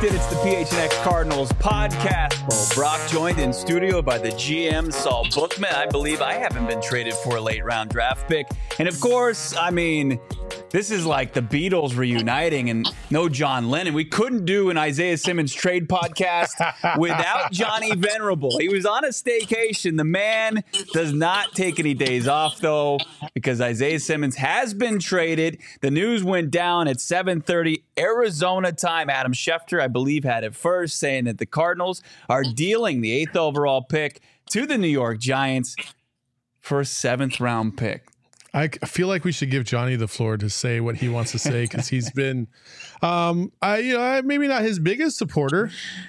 Connected. It's the PHNX Cardinals podcast. Well, Brock joined in studio by the GM, Saul Bookman. I believe I haven't been traded for a late round draft pick. And of course, I mean, this is like the Beatles reuniting and no John Lennon. We couldn't do an Isaiah Simmons trade podcast without Johnny Venerable. He was on a staycation. The man does not take any days off, though, because Isaiah Simmons has been traded. The news went down at 7:30 Arizona time. Adam Schefter, I believe, had it first, saying that the Cardinals are dealing the 8th overall pick to the New York Giants for a 7th round pick. I feel like we should give Johnny the floor to say what he wants to say, because he's been, maybe not his biggest supporter.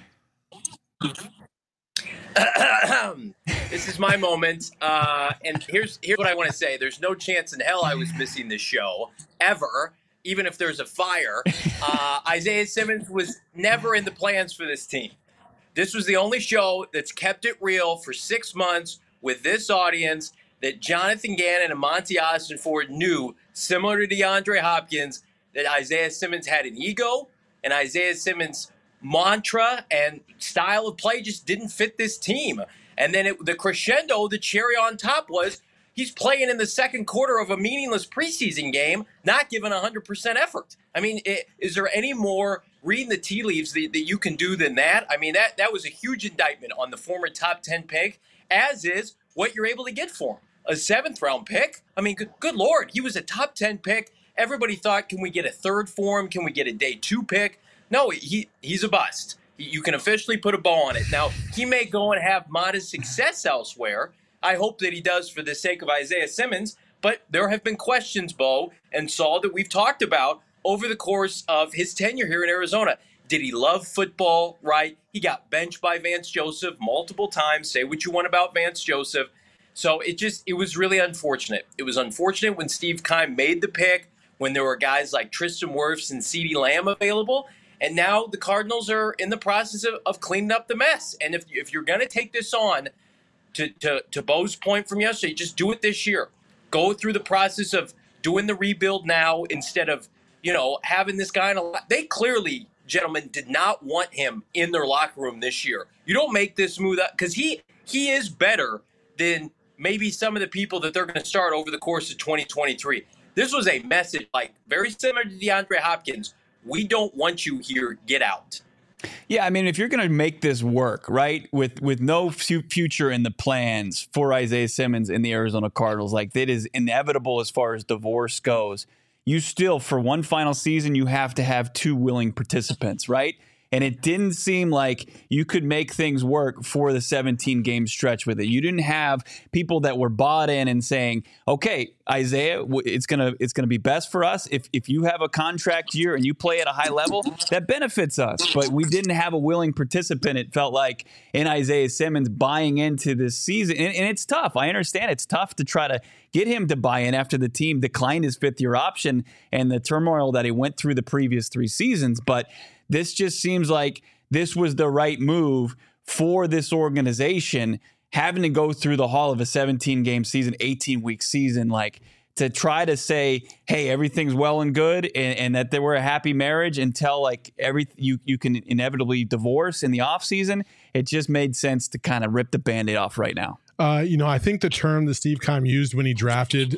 This is my moment, and here's what I want to say. There's no chance in hell I was missing this show ever, even if there's a fire. Isaiah Simmons was never in the plans for this team. This was the only show that's kept it real for 6 months with this audience, that Jonathan Gannon and Monty Ossenford knew, similar to DeAndre Hopkins, that Isaiah Simmons had an ego, and Isaiah Simmons' mantra and style of play just didn't fit this team. And then the crescendo, the cherry on top, was he's playing in the second quarter of a meaningless preseason game, not giving 100% effort. I mean, is there any more reading the tea leaves that you can do than that? I mean, that was a huge indictment on the former top 10 pick, as is what you're able to get for him. A 7th round pick? I mean, good Lord, he was a top 10 pick. Everybody thought, can we get a third for him? Can we get a day 2 pick? No, he's a bust. You can officially put a bow on it. Now, he may go and have modest success elsewhere. I hope that he does for the sake of Isaiah Simmons. But there have been questions, Bo and Saul, that we've talked about over the course of his tenure here in Arizona. Did he love football? Right. He got benched by Vance Joseph multiple times. Say what you want about Vance Joseph. So it was really unfortunate. It was unfortunate when Steve Keim made the pick, when there were guys like Tristan Wirfs and CeeDee Lamb available. And now the Cardinals are in the process of cleaning up the mess. And if you're going to take this on, to Bo's point from yesterday, just do it this year. Go through the process of doing the rebuild now instead of, having this guy in a – they clearly, gentlemen, did not want him in their locker room this year. You don't make this smooth up, because he is better than – maybe some of the people that they're going to start over the course of 2023. This was a message very similar to DeAndre Hopkins. We don't want you here. Get out. Yeah, I mean, if you're going to make this work, right, with no future in the plans for Isaiah Simmons in the Arizona Cardinals, that is inevitable as far as divorce goes. You still, for one final season, you have to have 2 willing participants, right? And it didn't seem like you could make things work for the 17-game stretch with it. You didn't have people that were bought in and saying, okay, Isaiah, it's gonna be best for us if you have a contract year and you play at a high level, that benefits us. But we didn't have a willing participant, it felt like, in Isaiah Simmons buying into this season. And it's tough. I understand it's tough to try to get him to buy in after the team declined his 5th-year option and the turmoil that he went through the previous 3 seasons. But this just seems like this was the right move for this organization, having to go through the haul of a 17-game season, 18-week season, to try to say, hey, everything's well and good, and that they were a happy marriage until you can inevitably divorce in the offseason. It just made sense to kind of rip the Band-Aid off right now. I think the term that Steve Keim used when he drafted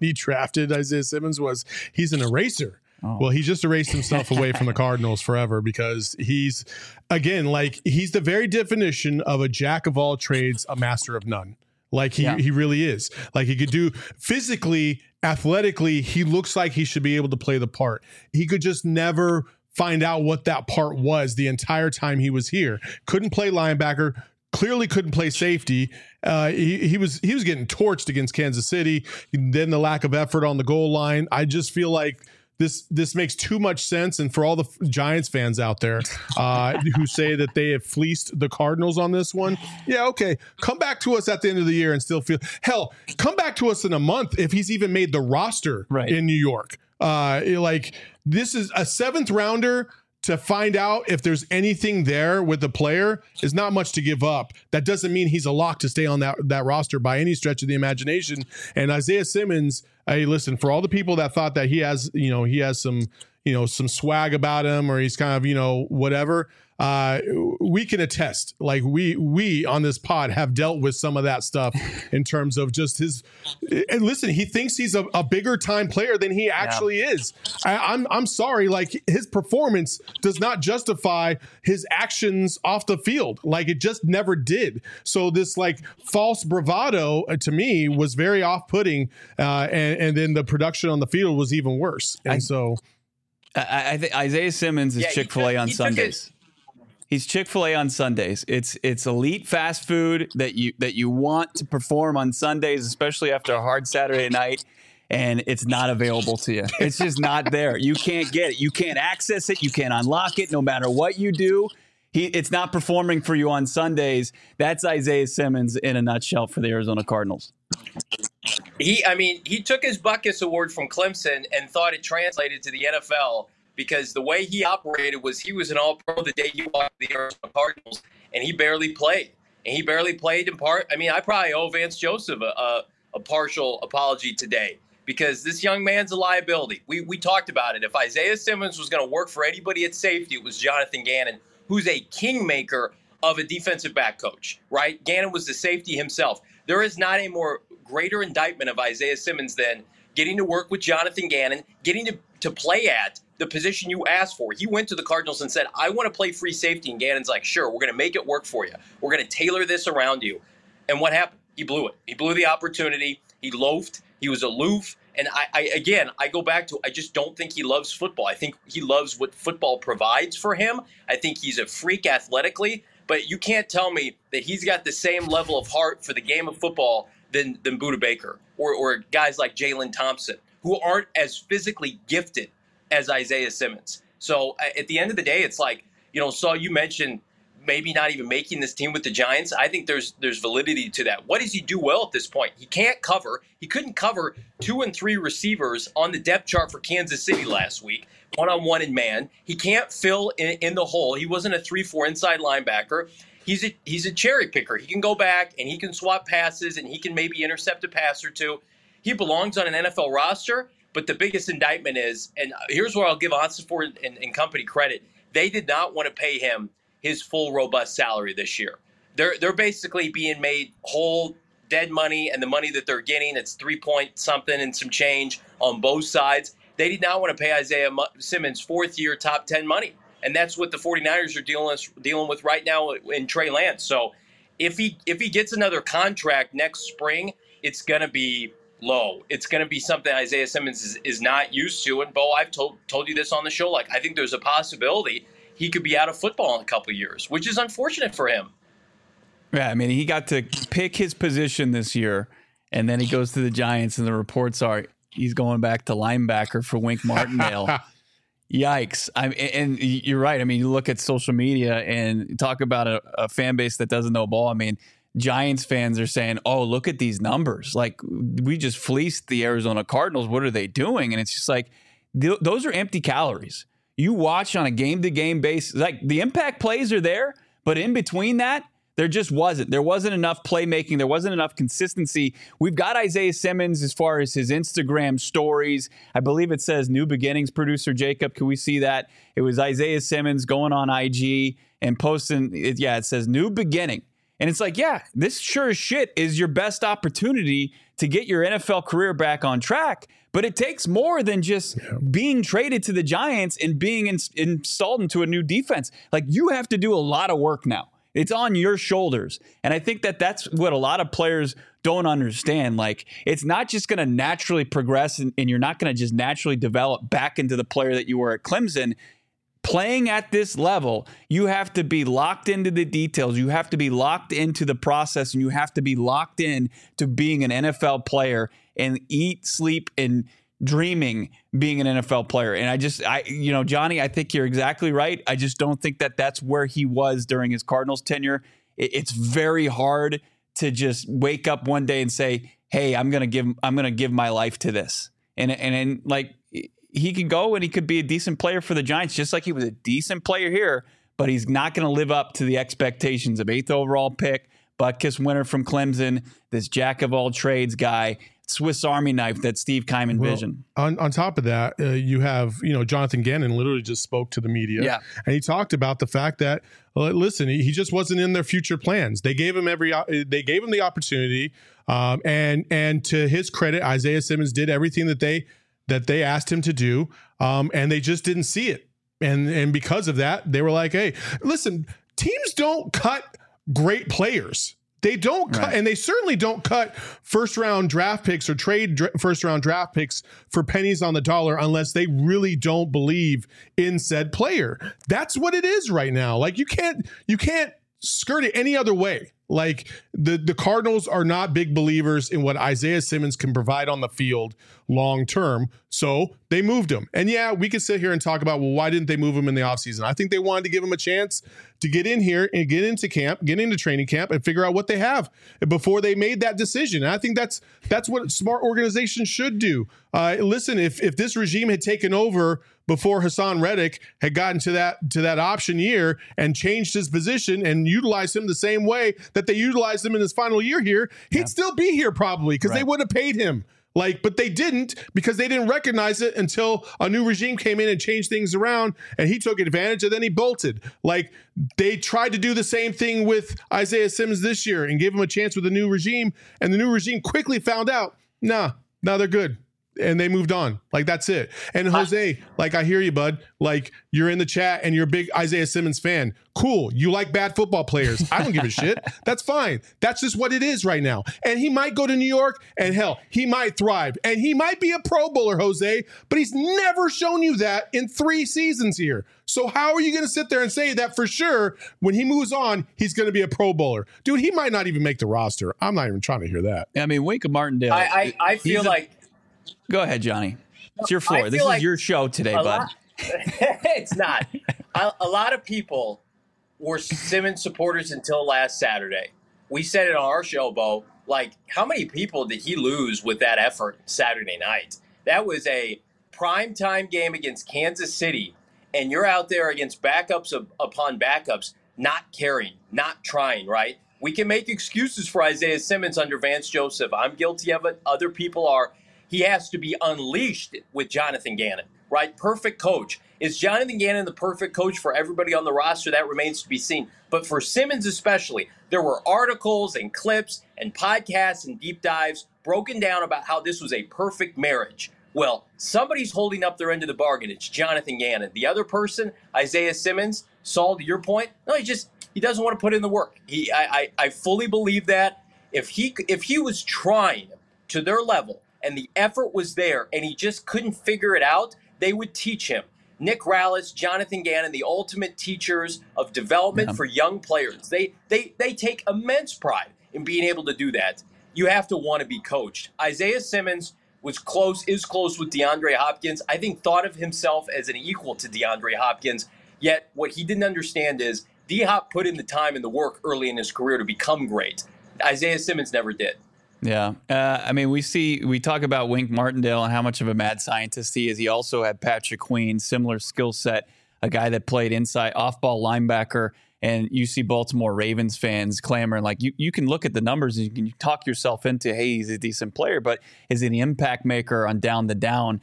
Isaiah Simmons was he's an eraser. Oh. Well, he just erased himself away from the Cardinals forever, because he's, again, he's the very definition of a jack of all trades, a master of none. He really is. He could do physically, athletically, he looks like he should be able to play the part. He could just never find out what that part was the entire time he was here. Couldn't play linebacker. Clearly couldn't play safety. He was getting torched against Kansas City. Then the lack of effort on the goal line. I just feel like this makes too much sense. And for all the Giants fans out there who say that they have fleeced the Cardinals on this one, yeah, okay, come back to us at the end of the year and still feel, hell, come back to us in a month if he's even made the roster in New York. This is a 7th rounder. To find out if there's anything there with the player is not much to give up. That doesn't mean he's a lock to stay on that roster by any stretch of the imagination. And Isaiah Simmons, hey, listen, for all the people that thought that he has some, some swag about him, or he's kind of, whatever. We can attest, like we on this pod have dealt with some of that stuff in terms of just his, and listen, he thinks he's a bigger time player than he actually is. I'm sorry. Like, his performance does not justify his actions off the field. Like, it just never did. So this like false bravado to me was very off-putting. And then the production on the field was even worse. And I think Isaiah Simmons is Chick-fil-A on Sundays. He's Chick-fil-A on Sundays. It's elite fast food that you want to perform on Sundays, especially after a hard Saturday night, and it's not available to you. It's just not there. You can't get it. You can't access it. You can't unlock it no matter what you do. It's not performing for you on Sundays. That's Isaiah Simmons in a nutshell for the Arizona Cardinals. He took his Butkus Award from Clemson and thought it translated to the NFL, because the way he operated was he was an all-pro the day he walked the Arizona Cardinals, and he barely played. And he barely played in part. I probably owe Vance Joseph a partial apology today, because this young man's a liability. We talked about it. If Isaiah Simmons was going to work for anybody at safety, it was Jonathan Gannon, who's a kingmaker of a defensive back coach, right? Gannon was the safety himself. There is not a greater indictment of Isaiah Simmons than getting to work with Jonathan Gannon, getting to play at the position you asked for. He went to the Cardinals and said, I want to play free safety. And Gannon's like, sure, we're going to make it work for you. We're going to tailor this around you. And what happened? He blew it. He blew the opportunity. He loafed. He was aloof. And I go back to, I just don't think he loves football. I think he loves what football provides for him. I think he's a freak athletically, but you can't tell me that he's got the same level of heart for the game of football than Budda Baker or guys like Jalen Thompson, who aren't as physically gifted as Isaiah Simmons. So at the end of the day, it's like, Saul, you mentioned maybe not even making this team with the Giants. I think there's validity to that. What does he do well at this point? He can't cover. He couldn't cover 2 and 3 receivers on the depth chart for Kansas City last week, one-on-one in man. He can't fill in the hole. He wasn't a 3-4 inside linebacker. He's a cherry picker. He can go back and he can swap passes and he can maybe intercept a pass or two. He belongs on an NFL roster. But the biggest indictment is, and here's where I'll give Ossenfort and company credit, they did not want to pay him his full robust salary this year. They're basically being made whole dead money, and the money that they're getting, it's 3-point something and some change on both sides. They did not want to pay Isaiah Simmons 4th-year top 10 money, and that's what the 49ers are dealing with right now in Trey Lance. So if he gets another contract next spring, it's going to be low. It's going to be something Isaiah Simmons is not used to. And Bo, I've told you this on the show. Like, I think there's a possibility he could be out of football in a couple of years, which is unfortunate for him. Yeah, he got to pick his position this year, and then he goes to the Giants, and the reports are he's going back to linebacker for Wink Martindale. Yikes. And you're right. You look at social media and talk about a fan base that doesn't know ball. Giants fans are saying, oh, look at these numbers. Like, we just fleeced the Arizona Cardinals. What are they doing? And it's just like, those are empty calories. You watch on a game-to-game basis. Like, the impact plays are there, but in between that, there just wasn't. There wasn't enough playmaking. There wasn't enough consistency. We've got Isaiah Simmons as far as his Instagram stories. I believe it says New Beginnings, producer Jacob. Can we see that? It was Isaiah Simmons going on IG and posting. It says New Beginning. And it's like, yeah, this sure as shit is your best opportunity to get your NFL career back on track. But it takes more than just being traded to the Giants and being installed into a new defense. Like, you have to do a lot of work now. It's on your shoulders. And I think that's what a lot of players don't understand. Like, it's not just going to naturally progress and you're not going to just naturally develop back into the player that you were at Clemson. Playing at this level, you have to be locked into the details. You have to be locked into the process, and you have to be locked in to being an NFL player and eat, sleep, and dreaming being an NFL player. And Johnny, I think you're exactly right. I just don't think that's where he was during his Cardinals tenure. It's very hard to just wake up one day and say, hey, I'm going to give my life to this. And like, he could go and he could be a decent player for the Giants, just like he was a decent player here, but he's not going to live up to the expectations of 8th overall pick, Butkus winner from Clemson, this jack of all trades guy. Swiss Army knife that Steve Keim envisioned. On top of that, you have, Jonathan Gannon literally just spoke to the media, and he talked about the fact that, listen, he just wasn't in their future plans. They gave him the opportunity, and to his credit, Isaiah Simmons did everything that they asked him to do, and they just didn't see it, and because of that, they were like, hey, listen, teams don't cut great players. They don't cut, and they certainly don't cut first-round draft picks or trade first-round draft picks for pennies on the dollar unless they really don't believe in said player. That's what it is right now. Like you can't skirt it any other way. Like the Cardinals are not big believers in what Isaiah Simmons can provide on the field long term. So they moved him. And yeah, we could sit here and talk about, well, why didn't they move him in the offseason? I think they wanted to give him a chance to get in here and get into camp, get into training camp and figure out what they have before they made that decision. And I think that's what smart organizations should do. Listen, if this regime had taken over before Hassan Reddick had gotten to that option year and changed his position and utilized him the same way that they utilized him in his final year here, he'd still be here probably because they would have paid him. But they didn't because they didn't recognize it until a new regime came in and changed things around and he took advantage and then he bolted. Like they tried to do the same thing with Isaiah Simmons this year and gave him a chance with the new regime, and the new regime quickly found out, nah, they're good. And they moved on. Like, that's it. And Jose, like, I hear you, bud. Like, you're in the chat and you're a big Isaiah Simmons fan. Cool. You like bad football players. I don't give a shit. That's fine. That's just what it is right now. And he might go to New York and hell, he might thrive. And he might be a Pro Bowler, Jose, but he's never shown you that in 3 seasons here. So how are you going to sit there and say that for sure when he moves on, he's going to be a Pro Bowler? Dude, he might not even make the roster. I'm not even trying to hear that. I mean, Wink Martindale. I feel like. Go ahead, Johnny. It's your floor. This is your show today, bud. It's not. A lot of people were Simmons supporters until last Saturday. We said it on our show, Bo. Like, how many people did he lose with that effort Saturday night? That was a primetime game against Kansas City, and you're out there against backups upon backups, not caring, not trying, right? We can make excuses for Isaiah Simmons under Vance Joseph. I'm guilty of it. Other people are. He has to be unleashed with Jonathan Gannon, right? Perfect coach. Is Jonathan Gannon the perfect coach for everybody on the roster? That remains to be seen. But for Simmons especially, there were articles and clips and podcasts and deep dives broken down about how this was a perfect marriage. Well, somebody's holding up their end of the bargain. It's Jonathan Gannon. The other person, Isaiah Simmons, Saul, to your point, no, he doesn't want to put in the work. I fully believe that. If he was trying to their level, and the effort was there, and he just couldn't figure it out, they would teach him. Nick Rallis, Jonathan Gannon, the ultimate teachers of development for young players. They take immense pride in being able to do that. You have to want to be coached. Isaiah Simmons is close with DeAndre Hopkins. I think thought of himself as an equal to DeAndre Hopkins, yet what he didn't understand is D-Hop put in the time and the work early in his career to become great. Isaiah Simmons never did. Yeah. I mean, we talk about Wink Martindale and how much of a mad scientist he is. He also had Patrick Queen, similar skill set, a guy that played inside off-ball linebacker. And you see Baltimore Ravens fans clamoring, like you can look at the numbers and you can talk yourself into, hey, he's a decent player, but is he an impact maker on down the down?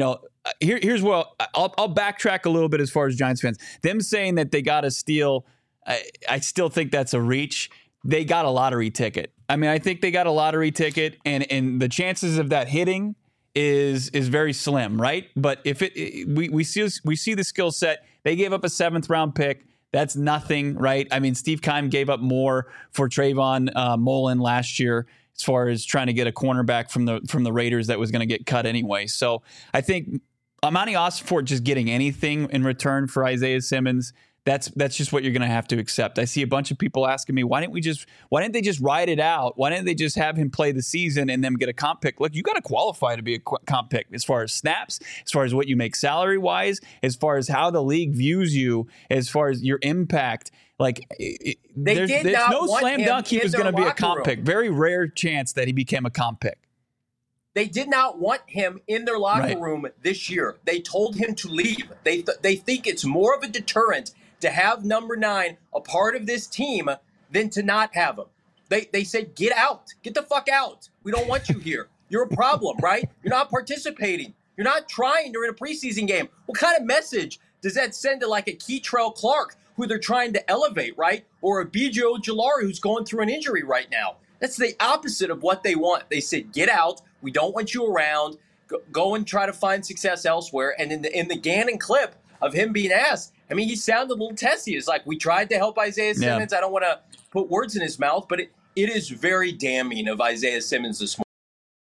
Here's what I'll backtrack a little bit as far as Giants fans. Them saying that they got a steal, I still think that's a reach. They got a lottery ticket. I mean, I think they got a lottery ticket, and the chances of that hitting is very slim, right? But if we see the skill set, they gave up a 7th round pick. That's nothing, right? I mean, Steve Keim gave up more for Trayvon Mullen last year as far as trying to get a cornerback from the Raiders that was going to get cut anyway. So I think Amani Ossenfort just getting anything in return for Isaiah Simmons, that's just what you're going to have to accept. I see a bunch of people asking me, why didn't they just ride it out? Why didn't they just have him play the season and then get a comp pick? Look, you got to qualify to be a comp pick as far as snaps, as far as what you make salary wise, as far as how the league views you, as far as your impact. Like there's no slam dunk he was going to be a comp pick. Very rare chance that he became a comp pick. They did not want him in their locker room this year. They told him to leave. They think it's more of a deterrent to have number 9 a part of this team than to not have him. They said, get out. Get the fuck out. We don't want you here. you're a problem, right? You're not participating. You're not trying during a preseason game. What kind of message does that send to like a Keitrell Clark who they're trying to elevate, right? Or a BJ Ojulari who's going through an injury right now? That's the opposite of what they want. They said, get out. We don't want you around. Go and try to find success elsewhere. And in the Gannon clip of him being asked, I mean, he sounded a little testy. It's like, we tried to help Isaiah Simmons. I don't want to put words in his mouth, but it is very damning of Isaiah Simmons this morning.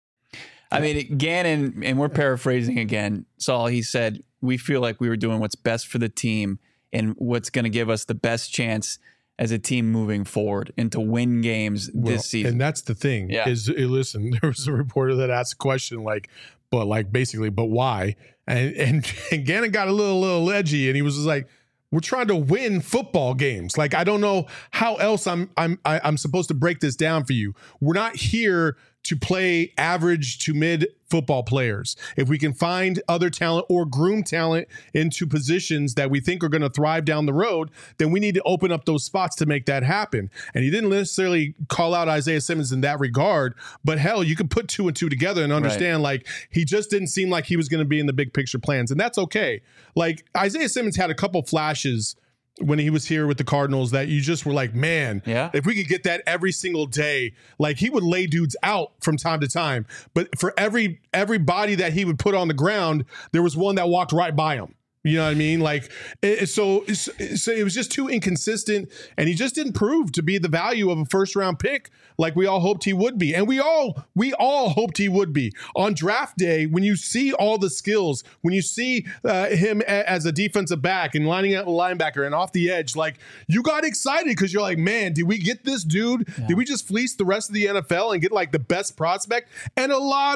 I mean, Gannon, and we're paraphrasing again, Saul, he said, we feel like we were doing what's best for the team and what's going to give us the best chance as a team moving forward and to win games this season. And that's the thing is, listen, there was a reporter that asked a question but why? And Gannon got a little edgy, and he was just like, we're trying to win football games. Like, I don't know how else I'm supposed to break this down for you. We're not here to play average to mid football players. If we can find other talent or groom talent into positions that we think are going to thrive down the road, then we need to open up those spots to make that happen. And he didn't necessarily call out Isaiah Simmons in that regard, but hell, you can put 2 and 2 together and understand like he just didn't seem like he was going to be in the big picture plans. And that's okay. Like Isaiah Simmons had a couple flashes when he was here with the Cardinals that you just were like, man, if we could get that every single day, like he would lay dudes out from time to time. But for every body that he would put on the ground, there was one that walked right by him. You know what I mean? Like, so it was just too inconsistent, and he just didn't prove to be the value of a first-round pick like we all hoped he would be. And we all hoped he would be. On draft day, when you see all the skills, when you see him as a defensive back and lining up a linebacker and off the edge, like, you got excited because you're like, man, did we get this dude? Yeah. Did we just fleece the rest of the NFL and get like the best prospect? And a lot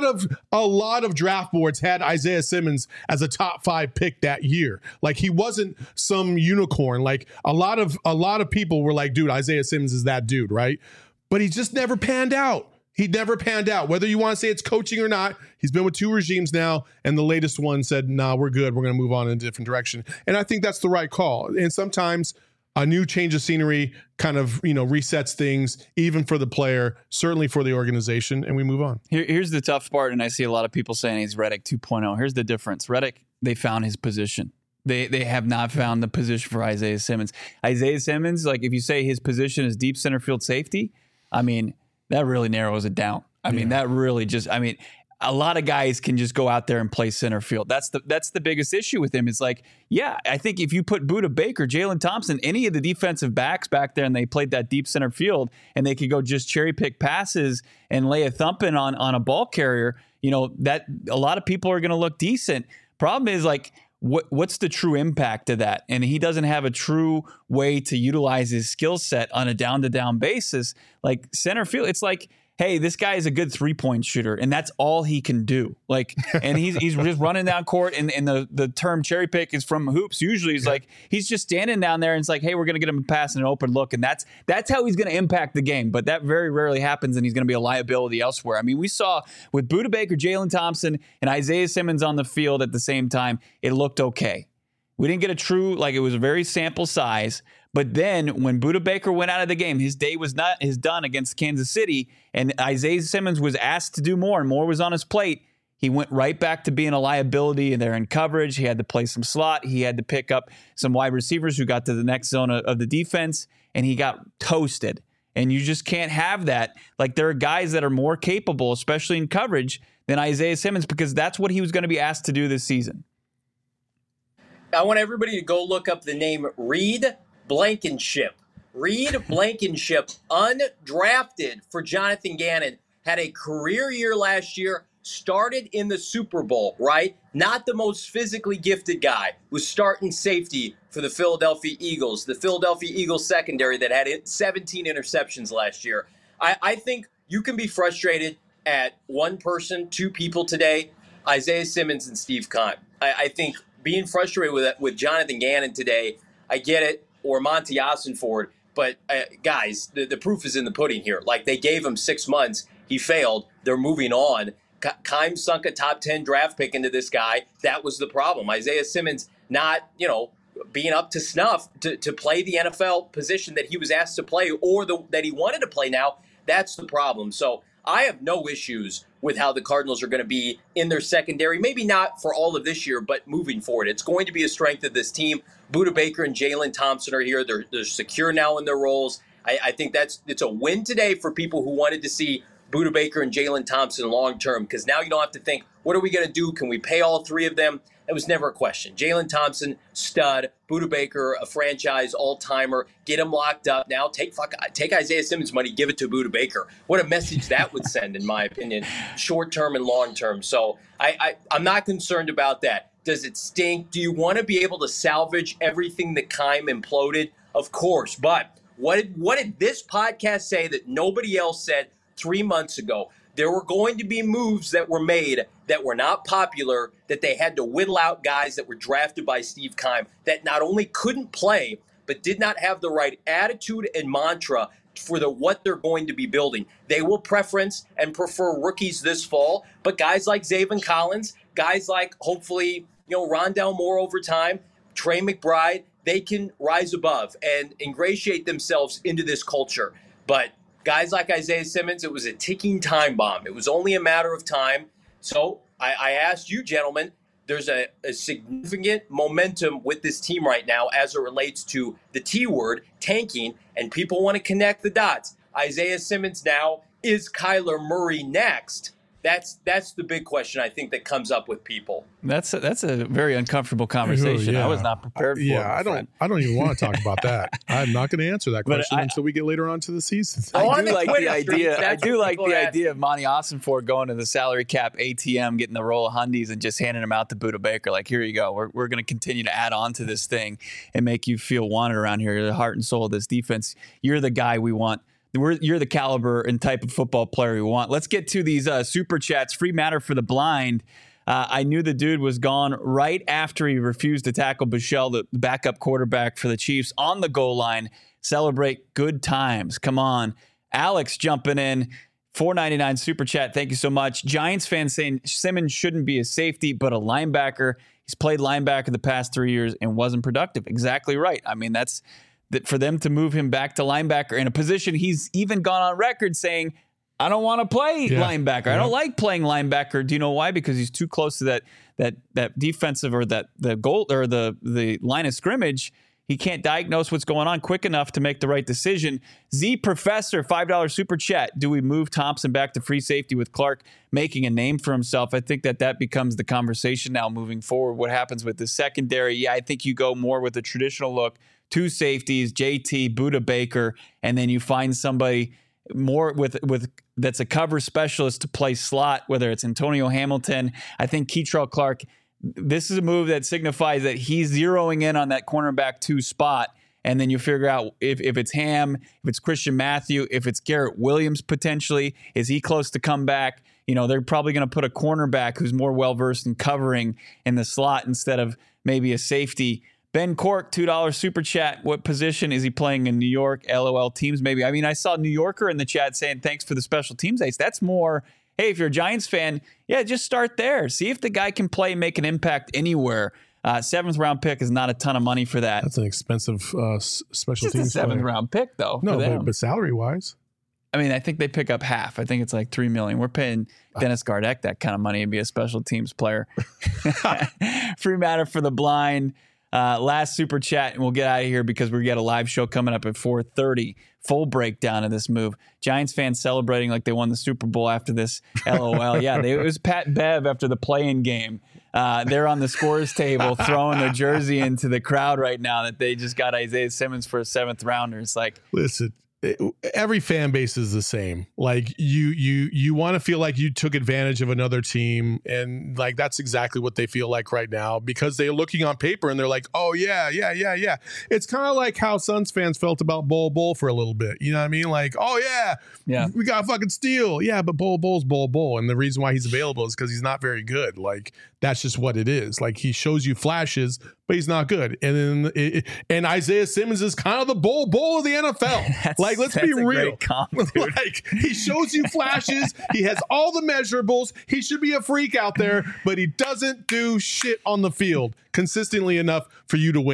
of draft boards had Isaiah Simmons as a top 5 pick that year. Like, he wasn't some unicorn. Like, a lot of people were like, dude, Isaiah Simmons is that dude, right? But he just never panned out. He never panned out. Whether you want to say it's coaching or not, he's been with 2 regimes now, and the latest one said, nah, we're good. We're going to move on in a different direction. And I think that's the right call. And sometimes a new change of scenery kind of, resets things, even for the player, certainly for the organization, and we move on. Here's the tough part, and I see a lot of people saying he's Reddick 2.0. Here's the difference. Reddick, they found his position. They have not found the position for Isaiah Simmons. Isaiah Simmons, like if you say his position is deep center field safety, I mean, that really narrows it down. I mean, that really just, a lot of guys can just go out there and play center field. That's the biggest issue with him. It's like, I think if you put Budda Baker, Jalen Thompson, any of the defensive backs back there and they played that deep center field and they could go just cherry pick passes and lay a thumping on a ball carrier, that a lot of people are going to look decent. Problem is, like, what's the true impact of that? And he doesn't have a true way to utilize his skill set on a down-to-down basis. Like center field, it's like, hey, this guy is a good 3-point shooter, and that's all he can do. Like, and he's just running down court, and the term cherry pick is from hoops. Usually, he's like he's just standing down there, and it's like, hey, we're gonna get him a pass and an open look, and that's how he's gonna impact the game. But that very rarely happens, and he's gonna be a liability elsewhere. I mean, we saw with Budda Baker, Jalen Thompson, and Isaiah Simmons on the field at the same time, it looked okay. We didn't get a true, like, it was a very sample size. But then when Budda Baker went out of the game, his day was not done against Kansas City, and Isaiah Simmons was asked to do more, and more was on his plate. He went right back to being a liability, and they're in coverage. He had to play some slot. He had to pick up some wide receivers who got to the next zone of the defense, and he got toasted. And you just can't have that. Like, there are guys that are more capable, especially in coverage, than Isaiah Simmons, because that's what he was going to be asked to do this season. I want everybody to go look up the name Reed Blankenship. Reed Blankenship, undrafted for Jonathan Gannon, had a career year last year, started in the Super Bowl, right? Not the most physically gifted guy, was starting safety for the Philadelphia Eagles, the Philadelphia Eagles secondary that had 17 interceptions last year. I think you can be frustrated at one person, 2 people today, Isaiah Simmons and Steve Keim. I think being frustrated with Jonathan Gannon today, I get it, or Monty Ossenford, but guys, the proof is in the pudding here. Like, they gave him 6 months. He failed. They're moving on. Keim sunk a top 10 draft pick into this guy. That was the problem. Isaiah Simmons not, being up to snuff to play the NFL position that he was asked to play or that he wanted to play now. That's the problem. So I have no issues with how the Cardinals are going to be in their secondary. Maybe not for all of this year, but moving forward. It's going to be a strength of this team. Budda Baker and Jalen Thompson are here. They're secure now in their roles. I think it's a win today for people who wanted to see Budda Baker and Jalen Thompson long term, because now you don't have to think, what are we going to do? Can we pay all three of them? It was never a question. Jalen Thompson, stud. Budda Baker, a franchise all-timer. Get him locked up. Now take Isaiah Simmons' money, give it to Budda Baker. What a message that would send, in my opinion, short-term and long-term. So I'm not concerned about that. Does it stink? Do you want to be able to salvage everything that Keim imploded? Of course. But what did this podcast say that nobody else said 3 months ago? There were going to be moves that were made that were not popular, that they had to whittle out guys that were drafted by Steve Keim that not only couldn't play, but did not have the right attitude and mantra for what they're going to be building. They will preference and prefer rookies this fall, but guys like Zaven Collins, guys like hopefully, Rondale Moore over time, Trey McBride, they can rise above and ingratiate themselves into this culture. But guys like Isaiah Simmons, it was a ticking time bomb. It was only a matter of time. So I asked you, gentlemen, there's a significant momentum with this team right now as it relates to the T word, tanking, and people want to connect the dots. Isaiah Simmons now, is Kyler Murray next? That's the big question, I think, that comes up with people. That's a very uncomfortable conversation. Yeah. I was not prepared for it. Yeah, I don't even want to talk about that. I'm not going to answer that question until we get later on to the season. I do like the idea of Monty Ossenfort going to the salary cap ATM, getting the roll of hundies and just handing them out to Budda Baker. Like, here you go. We're going to continue to add on to this thing and make you feel wanted around here. You're the heart and soul of this defense. You're the guy we want. You're the caliber and type of football player we want. Let's get to these super chats. Free matter for the blind. I knew the dude was gone right after he refused to tackle Bichelle, the backup quarterback for the Chiefs, on the goal line. Celebrate good times. Come on. Alex jumping in. $4.99 super chat. Thank you so much. Giants fans saying Simmons shouldn't be a safety, but a linebacker. He's played linebacker the past 3 years and wasn't productive. Exactly right. I mean, that for them to move him back to linebacker in a position he's even gone on record saying, I don't want to play linebacker. I don't like playing linebacker. Do you know why? Because he's too close to that defensive or the goal or the line of scrimmage. He can't diagnose what's going on quick enough to make the right decision. Z Professor, $5 super chat. Do we move Thompson back to free safety with Clark making a name for himself? I think that becomes the conversation now moving forward. What happens with the secondary? Yeah, I think you go more with the traditional look. 2 safeties, JT, Budda Baker, and then you find somebody more with that's a cover specialist to play slot, whether it's Antonio Hamilton. I think Keitrell Clark, this is a move that signifies that he's zeroing in on that cornerback 2 spot, and then you figure out if it's Ham, if it's Christian Matthew, if it's Garrett Williams potentially. Is he close to come back? They're probably going to put a cornerback who's more well-versed in covering in the slot instead of maybe a safety. Ben Cork, $2 super chat. What position is he playing in New York? LOL teams, maybe. I mean, I saw New Yorker in the chat saying, thanks for the special teams ace. That's more, hey, if you're a Giants fan, yeah, just start there. See if the guy can play and make an impact anywhere. 7th round pick is not a ton of money for that. That's an expensive special teams. It's a 7th round pick, though. No, but salary-wise. I mean, I think they pick up half. I think it's like $3 million. We're paying Dennis Gardeck that kind of money to be a special teams player. Free matter for the blind. Last super chat, and we'll get out of here because we got a live show coming up at 4:30. Full breakdown of this move. Giants fans celebrating like they won the Super Bowl after this. LOL. Yeah, it was Pat Bev after the play-in game. They're on the scores table throwing their jersey into the crowd right now that they just got Isaiah Simmons for a 7th rounder. It's like, listen, every fan base is the same. Like you want to feel like you took advantage of another team, and like that's exactly what they feel like right now because they're looking on paper and they're like, oh yeah. It's kind of like how Suns fans felt about Bol for a little bit. You know what I mean? Like, oh yeah, we got fucking steal. Yeah, but Bol's Bol, and the reason why he's available is because he's not very good. Like that's just what it is. Like he shows you flashes, but he's not good. And then and Isaiah Simmons is kind of the Bol of the NFL. Like, let's be real. Like, he shows you flashes. He has all the measurables. He should be a freak out there, but he doesn't do shit on the field consistently enough for you to win.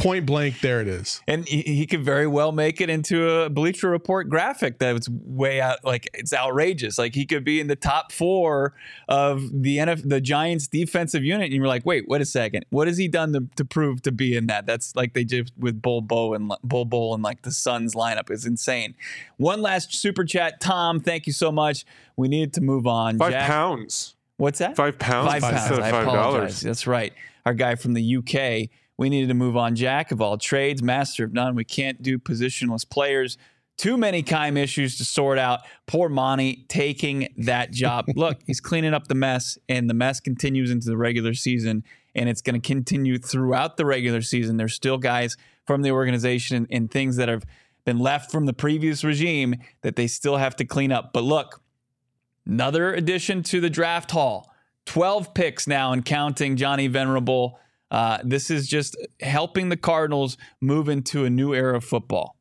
point blank, there it is. And he could very well make it into a Bleacher Report graphic that's way out, like it's outrageous. Like he could be in the top 4 of the Giants defensive unit. And you're like, wait a second. What has he done to prove to be in that? That's like they did with Bull Bull and like the Suns lineup. It's insane. One last super chat. Tom, thank you so much. We needed to move on. £5. Jack, what's that? £5. £5. I apologize. That's right. Our guy from the UK. We needed to move on. Jack of all trades, master of none. We can't do positionless players. Too many Keim issues to sort out. Poor Monty taking that job. Look, he's cleaning up the mess, and the mess continues into the regular season, and it's going to continue throughout the regular season. There's still guys from the organization and things that have been left from the previous regime that they still have to clean up. But look, another addition to the draft haul. 12 picks now and counting. Johnny Venerable. This is just helping the Cardinals move into a new era of football.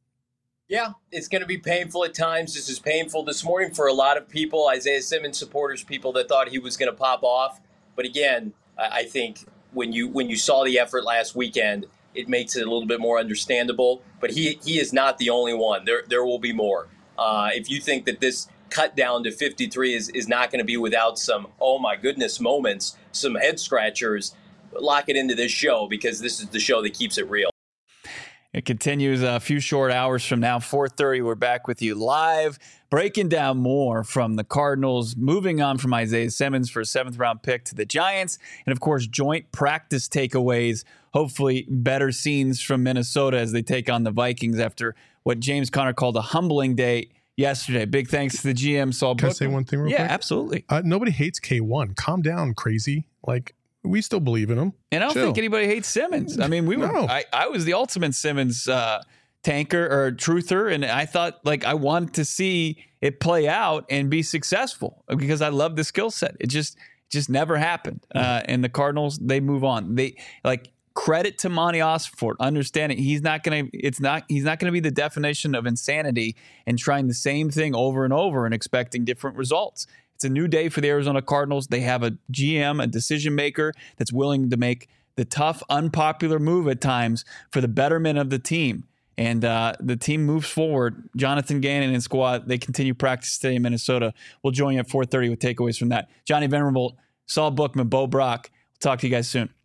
Yeah, it's going to be painful at times. This is painful this morning for a lot of people, Isaiah Simmons supporters, people that thought he was going to pop off. But again, I think when you saw the effort last weekend, it makes it a little bit more understandable. But he is not the only one. There will be more. If you think that this cut down to 53 is not going to be without some, oh my goodness moments, some head scratchers, lock it into this show because this is the show that keeps it real. It continues a few short hours from now, 4:30. We're back with you live, breaking down more from the Cardinals, moving on from Isaiah Simmons for a 7th-round pick to the Giants, and, of course, joint practice takeaways, hopefully better scenes from Minnesota as they take on the Vikings after what James Conner called a humbling day yesterday. Big thanks to the GM, Saul Bookman. Can I say one thing real quick? Yeah, absolutely. Nobody hates K1. Calm down, crazy. Like, we still believe in him. And I don't think anybody hates Simmons. I mean, I was the ultimate Simmons tanker or truther, and I thought, like, I wanted to see it play out and be successful because I love the skill set. It just never happened. And the Cardinals, they move on. They credit to Monty Ossenfort, understanding he's not going to be the definition of insanity and trying the same thing over and over and expecting different results. It's a new day for the Arizona Cardinals. They have a GM, a decision maker that's willing to make the tough, unpopular move at times for the betterment of the team. And the team moves forward. Jonathan Gannon and squad, they continue practice today in Minnesota. We'll join you at 4:30 with takeaways from that. Johnny Venerable, Saul Bookman, Bo Brock. We'll talk to you guys soon.